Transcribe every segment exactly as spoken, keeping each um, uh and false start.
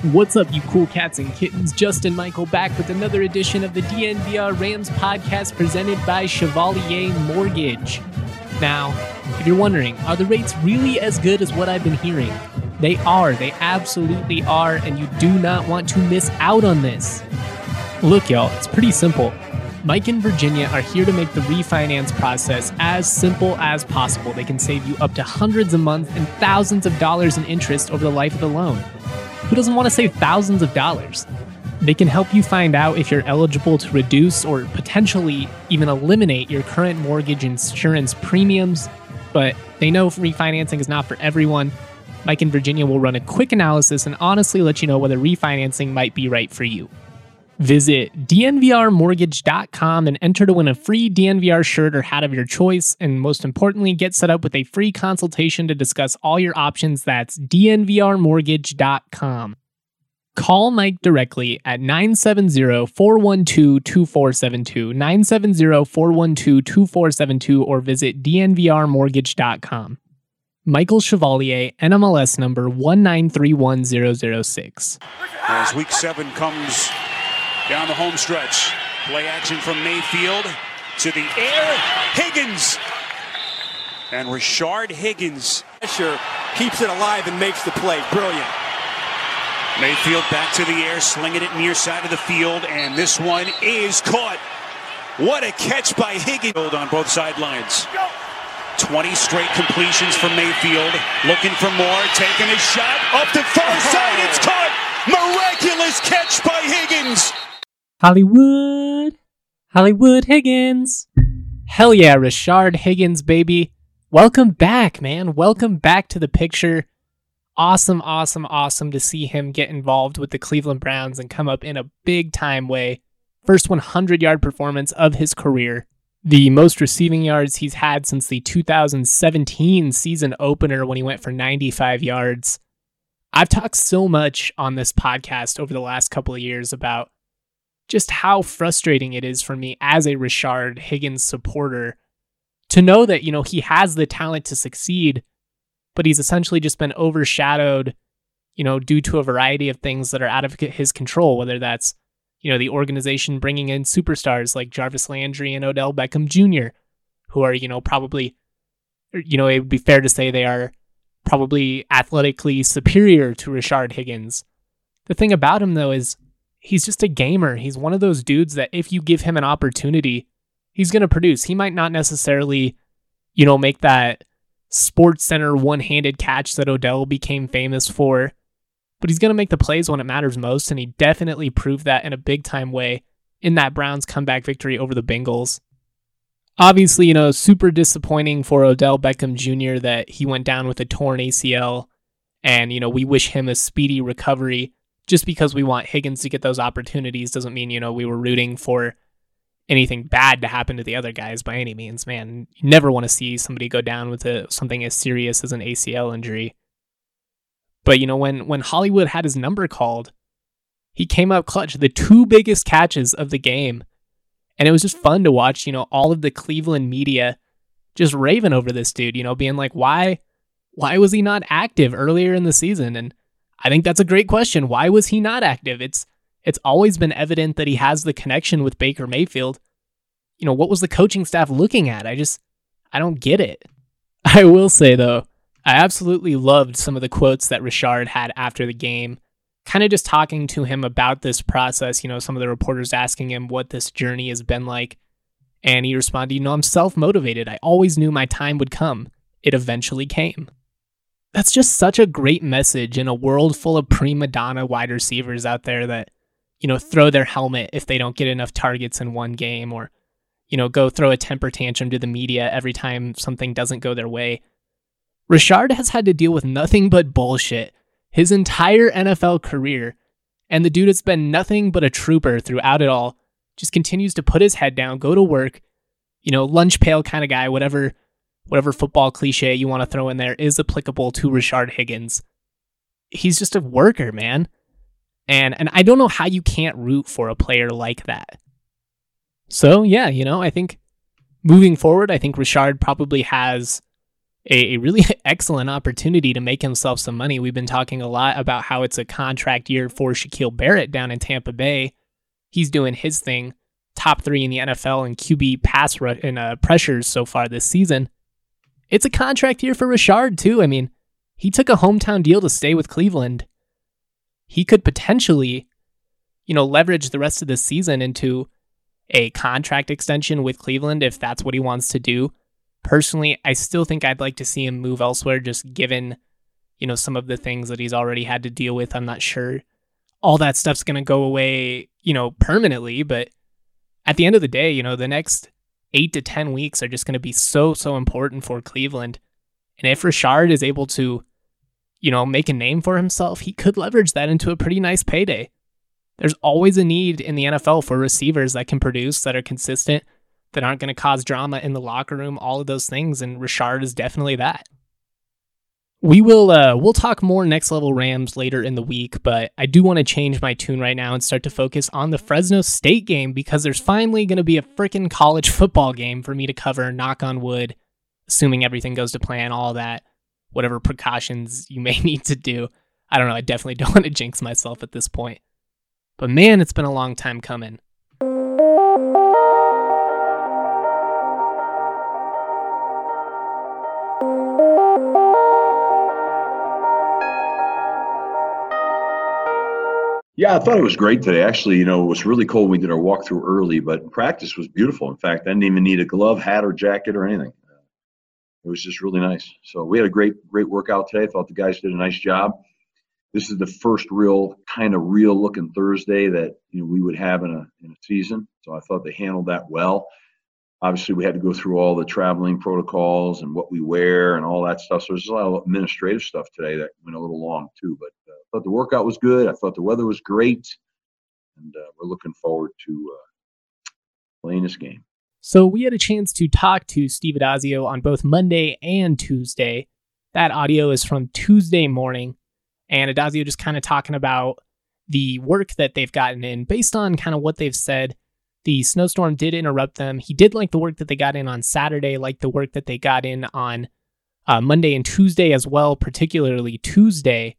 What's up, you cool cats and kittens? Justin Michael back with another edition of the D N V R Rams podcast presented by Chevalier Mortgage. Now, if you're wondering, are the rates really as good as what I've been hearing? They are. They absolutely are, and you do not want to miss out on this. Look, y'all, it's pretty simple. Mike and Virginia are here to make the refinance process as simple as possible. They can save you up to hundreds a month and thousands of dollars in interest over the life of the loan. Who doesn't want to save thousands of dollars? They can help you find out if you're eligible to reduce or potentially even eliminate your current mortgage insurance premiums, but they know refinancing is not for everyone. Mike and Virginia will run a quick analysis and honestly let you know whether refinancing might be right for you. Visit D N V R mortgage dot com and enter to win a free D N V R shirt or hat of your choice, and most importantly, get set up with a free consultation to discuss all your options. That's D N V R mortgage dot com. Call Mike directly at nine seven zero, four one two, two four seven two, nine seven zero, four one two, two four seven two, or visit D N V R mortgage dot com. Michael Chevalier, N M L S number one nine three one zero zero six. As week seven comes down the home stretch, play action from Mayfield to the air. Higgins and Rashard Higgins. Sure, keeps it alive and makes the play. Brilliant. Mayfield back to the air, slinging it near side of the field, and this one is caught. What a catch by Higgins on both sidelines. twenty straight completions from Mayfield, looking for more, taking a shot up the far side. It's caught. Miraculous catch by Higgins. Hollywood, Hollywood Higgins. Hell yeah, Rashard Higgins, baby. Welcome back, man. Welcome back to the picture. Awesome, awesome, awesome to see him get involved with the Cleveland Browns and come up in a big time way. First hundred-yard performance of his career. The most receiving yards he's had since the two thousand seventeen season opener when he went for ninety-five yards. I've talked so much on this podcast over the last couple of years about just how frustrating it is for me as a Rashard Higgins supporter to know that, you know, he has the talent to succeed, but he's essentially just been overshadowed, you know, due to a variety of things that are out of his control, whether that's, you know, the organization bringing in superstars like Jarvis Landry and Odell Beckham Junior, who are, you know, probably, you know, it would be fair to say they are probably athletically superior to Rashard Higgins. The thing about him, though, is he's just a gamer. He's one of those dudes that if you give him an opportunity, he's going to produce. He might not necessarily, you know, make that Sports Center one-handed catch that Odell became famous for, but he's going to make the plays when it matters most, and he definitely proved that in a big-time way in that Browns comeback victory over the Bengals. Obviously, you know, super disappointing for Odell Beckham Junior that he went down with a torn A C L, and, you know, we wish him a speedy recovery. Just because we want Higgins to get those opportunities doesn't mean, you know, we were rooting for anything bad to happen to the other guys by any means, man. You never want to see somebody go down with a, something as serious as an A C L injury. But, you know, when, when Hollywood had his number called, he came up clutch, the two biggest catches of the game. And it was just fun to watch, you know, all of the Cleveland media just raving over this dude, you know, being like, why, why was he not active earlier in the season? And I think that's a great question. Why was he not active? It's it's always been evident that he has the connection with Baker Mayfield. You know, what was the coaching staff looking at? I just, I don't get it. I will say, though, I absolutely loved some of the quotes that Rashard had after the game, kind of just talking to him about this process. You know, some of the reporters asking him what this journey has been like. And he responded, you know, I'm self-motivated. I always knew my time would come. It eventually came. That's just such a great message in a world full of prima donna wide receivers out there that, you know, throw their helmet if they don't get enough targets in one game, or, you know, go throw a temper tantrum to the media every time something doesn't go their way. Rashard has had to deal with nothing but bullshit his entire N F L career, and the dude has been nothing but a trooper throughout it all. Just continues to put his head down, go to work, you know, lunch pail kind of guy, whatever whatever football cliche you want to throw in there is applicable to Rashard Higgins. He's just a worker, man. And and I don't know how you can't root for a player like that. So, yeah, you know, I think moving forward, I think Rashard probably has a, a really excellent opportunity to make himself some money. We've been talking a lot about how it's a contract year for Shaquille Barrett down in Tampa Bay. He's doing his thing, top three in the N F L in Q B pass rush and uh, pressures so far this season. It's a contract year for Rashard too. I mean, he took a hometown deal to stay with Cleveland. He could potentially, you know, leverage the rest of the season into a contract extension with Cleveland if that's what he wants to do. Personally, I still think I'd like to see him move elsewhere, just given, you know, some of the things that he's already had to deal with. I'm not sure all that stuff's going to go away, you know, permanently, but at the end of the day, you know, the next eight to ten weeks are just going to be so, so important for Cleveland. And if Rashard is able to, you know, make a name for himself, he could leverage that into a pretty nice payday. There's always a need in the N F L for receivers that can produce, that are consistent, that aren't going to cause drama in the locker room, all of those things, and Rashard is definitely that. We will uh, we'll talk more Next Level Rams later in the week, but I do want to change my tune right now and start to focus on the Fresno State game because there's finally going to be a freaking college football game for me to cover, knock on wood, assuming everything goes to plan, all that, whatever precautions you may need to do. I don't know, I definitely don't want to jinx myself at this point. But man, it's been a long time coming. Yeah, I thought it was great today. Actually, you know, it was really cold when we did our walkthrough early, but practice was beautiful. In fact, I didn't even need a glove, hat, or jacket or anything. It was just really nice. So we had a great, great workout today. I thought the guys did a nice job. This is the first real kind of real looking Thursday that, you know, we would have in a in a season. So I thought they handled that well. Obviously, we had to go through all the traveling protocols and what we wear and all that stuff. So there's a lot of administrative stuff today that went a little long too. But uh, I thought the workout was good. I thought the weather was great. And uh, we're looking forward to uh, playing this game. So we had a chance to talk to Steve Addazio on both Monday and Tuesday. That audio is from Tuesday morning. And Addazio just kind of talking about the work that they've gotten in based on kind of what they've said. The snowstorm did interrupt them. He did like the work that they got in on Saturday, like the work that they got in on uh, Monday and Tuesday as well, particularly Tuesday.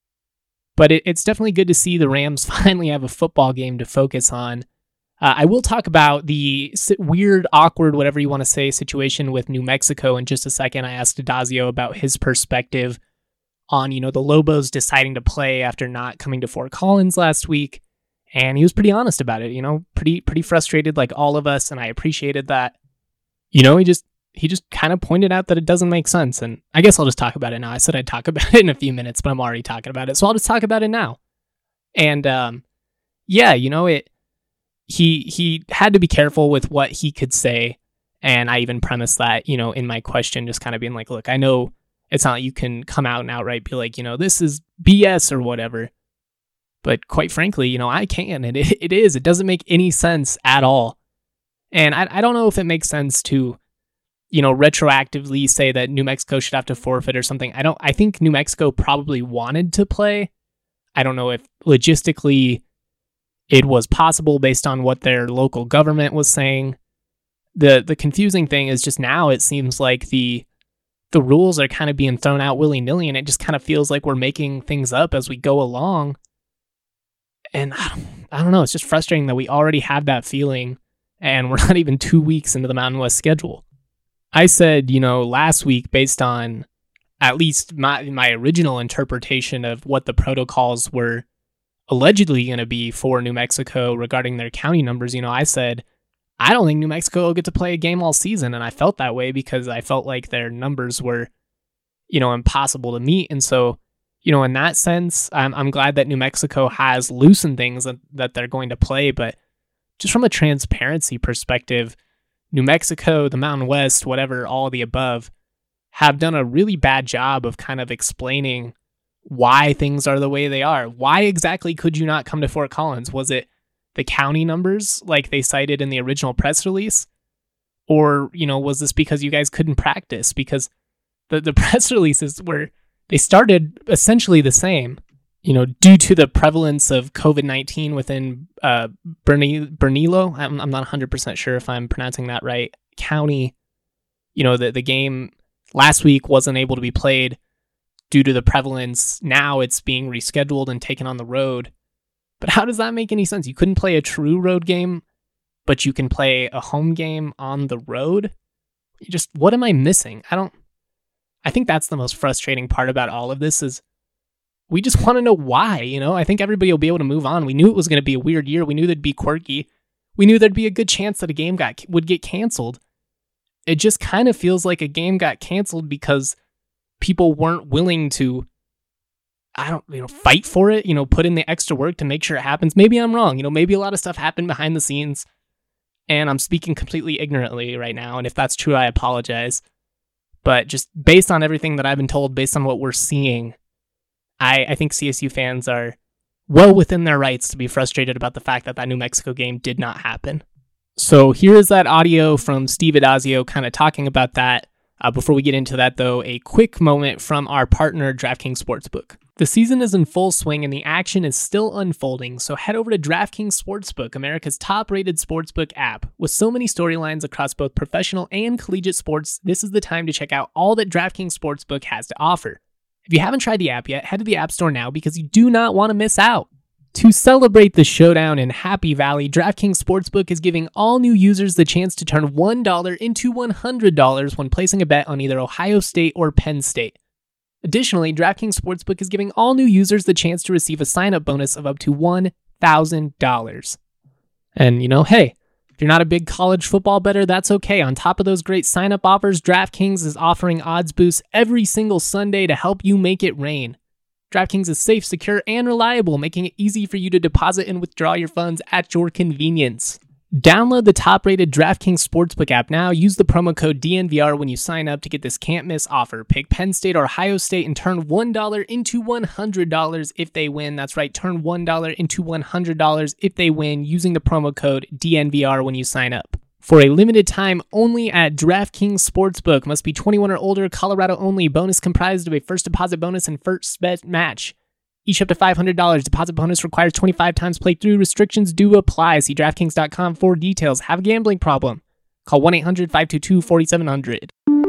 But it, it's definitely good to see the Rams finally have a football game to focus on. Uh, I will talk about the weird, awkward, whatever you want to say, situation with New Mexico in just a second. I asked Addazio about his perspective on, you know, the Lobos deciding to play after not coming to Fort Collins last week. And he was pretty honest about it, you know, pretty pretty frustrated like all of us, and I appreciated that. You know, he just he just kind of pointed out that it doesn't make sense, and I guess I'll just talk about it now. I said I'd talk about it in a few minutes, but I'm already talking about it, so I'll just talk about it now. And um, yeah, you know, it he he had to be careful with what he could say, and I even premised that, you know, in my question, just kind of being like, look, I know it's not like you can come out and outright be like, you know, this is B S or whatever. But quite frankly, you know, I can, and it, it is. It doesn't make any sense at all. And I, I don't know if it makes sense to, you know, retroactively say that New Mexico should have to forfeit or something. I don't, I think New Mexico probably wanted to play. I don't know if logistically it was possible based on what their local government was saying. The the confusing thing is just now it seems like the the rules are kind of being thrown out willy-nilly, and it just kind of feels like we're making things up as we go along. And I don't, I don't know, it's just frustrating that we already have that feeling and we're not even two weeks into the Mountain West schedule. I said, you know, last week, based on at least my, my original interpretation of what the protocols were allegedly going to be for New Mexico regarding their county numbers, you know, I said, I don't think New Mexico will get to play a game all season. And I felt that way because I felt like their numbers were, you know, impossible to meet. And so, you know, in that sense, I'm, I'm glad that New Mexico has loosened things that, that they're going to play. But just from a transparency perspective, New Mexico, the Mountain West, whatever, all of the above, have done a really bad job of kind of explaining why things are the way they are. Why exactly could you not come to Fort Collins? Was it the county numbers like they cited in the original press release? Or, you know, was this because you guys couldn't practice? Because the, the press releases were... They started essentially the same, you know, due to the prevalence of covid nineteen within uh, Berne- Bernilo. I'm, I'm not one hundred percent sure if I'm pronouncing that right. County, you know, the, the game last week wasn't able to be played due to the prevalence. Now it's being rescheduled and taken on the road. But how does that make any sense? You couldn't play a true road game, but you can play a home game on the road? You just, what am I missing? I don't, I think that's the most frustrating part about all of this is we just want to know why, you know? I think everybody will be able to move on. We knew it was going to be a weird year. We knew there'd be quirky. We knew there'd be a good chance that a game got would get canceled. It just kind of feels like a game got canceled because people weren't willing to, I don't, you know, fight for it, you know, put in the extra work to make sure it happens. Maybe I'm wrong. You know, maybe a lot of stuff happened behind the scenes and I'm speaking completely ignorantly right now. And if that's true, I apologize. But just based on everything that I've been told, based on what we're seeing, I, I think C S U fans are well within their rights to be frustrated about the fact that that New Mexico game did not happen. So here is that audio from Steve Addazio kind of talking about that. Uh, before we get into that, though, a quick moment from our partner, DraftKings Sportsbook. The season is in full swing and the action is still unfolding, so head over to DraftKings Sportsbook, America's top-rated sportsbook app. With so many storylines across both professional and collegiate sports, this is the time to check out all that DraftKings Sportsbook has to offer. If you haven't tried the app yet, head to the App Store now because you do not want to miss out. To celebrate the showdown in Happy Valley, DraftKings Sportsbook is giving all new users the chance to turn one dollar into one hundred dollars when placing a bet on either Ohio State or Penn State. Additionally, DraftKings Sportsbook is giving all new users the chance to receive a sign-up bonus of up to one thousand dollars. And, you know, hey, if you're not a big college football bettor, that's okay. On top of those great sign-up offers, DraftKings is offering odds boosts every single Sunday to help you make it rain. DraftKings is safe, secure, and reliable, making it easy for you to deposit and withdraw your funds at your convenience. Download the top-rated DraftKings Sportsbook app now. Use the promo code D N V R when you sign up to get this can't-miss offer. Pick Penn State or Ohio State and turn one dollar into one hundred dollars if they win. That's right, turn one dollar into one hundred dollars if they win using the promo code D N V R when you sign up. For a limited time only at DraftKings Sportsbook. Must be twenty-one or older, Colorado only. Bonus comprised of a first deposit bonus and first bet match. Each up to five hundred dollars. Deposit bonus requires twenty-five times playthrough. Restrictions do apply. See DraftKings dot com for details. Have a gambling problem? Call one eight hundred five two two four seven zero zero.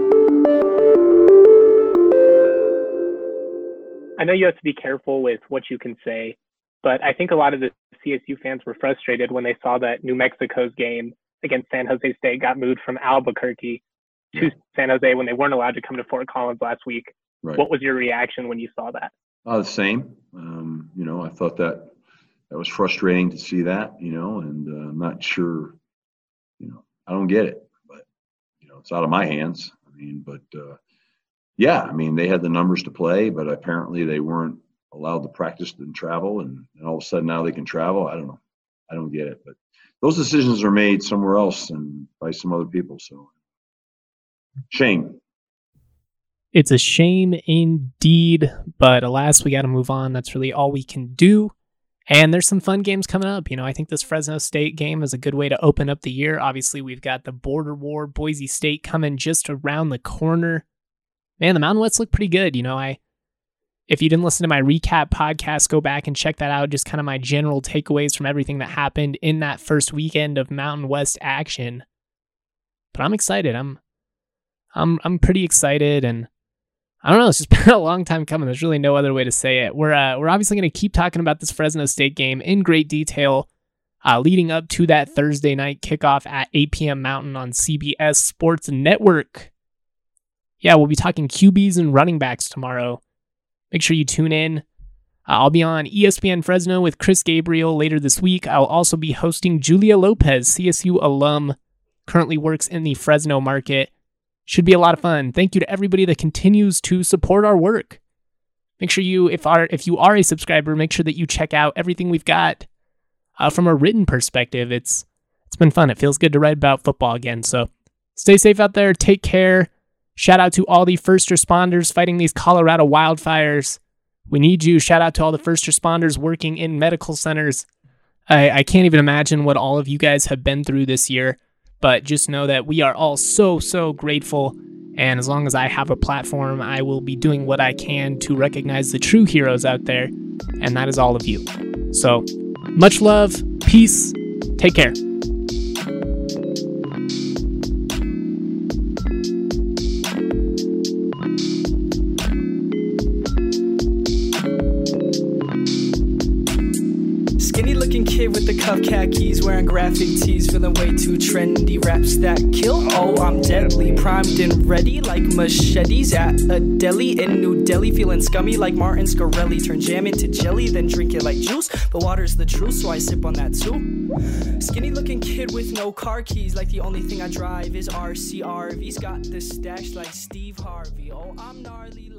I know you have to be careful with what you can say, but I think a lot of the C S U fans were frustrated when they saw that New Mexico's game against San Jose State got moved from Albuquerque to San Jose when they weren't allowed to come to Fort Collins last week. Right. What was your reaction when you saw that? Uh, the same. Um, you know, I thought that that was frustrating to see that, you know, and uh, I'm not sure, you know, I don't get it, but, you know, it's out of my hands. I mean, but, uh, yeah, I mean, they had the numbers to play, but apparently they weren't allowed to practice and travel, and, and all of a sudden now they can travel. I don't know. I don't get it, but those decisions are made somewhere else and by some other people. So shame. It's a shame indeed, but alas, we got to move on. That's really all we can do. And there's some fun games coming up. You know, I think this Fresno State game is a good way to open up the year. Obviously, we've got the Border War, Boise State coming just around the corner. Man, the Mountain West look pretty good. You know, I if you didn't listen to my recap podcast, go back and check that out. Just kind of my general takeaways from everything that happened in that first weekend of Mountain West action. But I'm excited. I'm, I'm, I'm pretty excited, and I don't know. It's just been a long time coming. There's really no other way to say it. We're, uh, we're obviously going to keep talking about this Fresno State game in great detail, uh, leading up to that Thursday night kickoff at eight p.m. Mountain on C B S Sports Network. Yeah, we'll be talking Q Bs and running backs tomorrow. Make sure you tune in. Uh, I'll be on E S P N Fresno with Chris Gabriel later this week. I'll also be hosting Julia Lopez, C S U alum, currently works in the Fresno market. Should be a lot of fun. Thank you to everybody that continues to support our work. Make sure you, if are if you are a subscriber, make sure that you check out everything we've got uh, from a written perspective. It's it's been fun. It feels good to write about football again. So stay safe out there. Take care. Shout out to all the first responders fighting these Colorado wildfires. We need you. Shout out to all the first responders working in medical centers. I, I can't even imagine what all of you guys have been through this year, but just know that we are all so, so grateful. And as long as I have a platform, I will be doing what I can to recognize the true heroes out there. And that is all of you. So much love, peace, take care. looking kid with the cuff khakis, wearing graphic tees, feeling way too trendy. Raps that kill, oh I'm deadly, primed and ready like machetes at a deli in New Delhi, feeling scummy like Martin Scarelli. Turn jam into jelly, then drink it like juice, but water's the truth, so I sip on that too. Skinny looking kid with no car keys, like the only thing I drive is R C R Vs. Got the stash like Steve Harvey, oh I'm gnarly.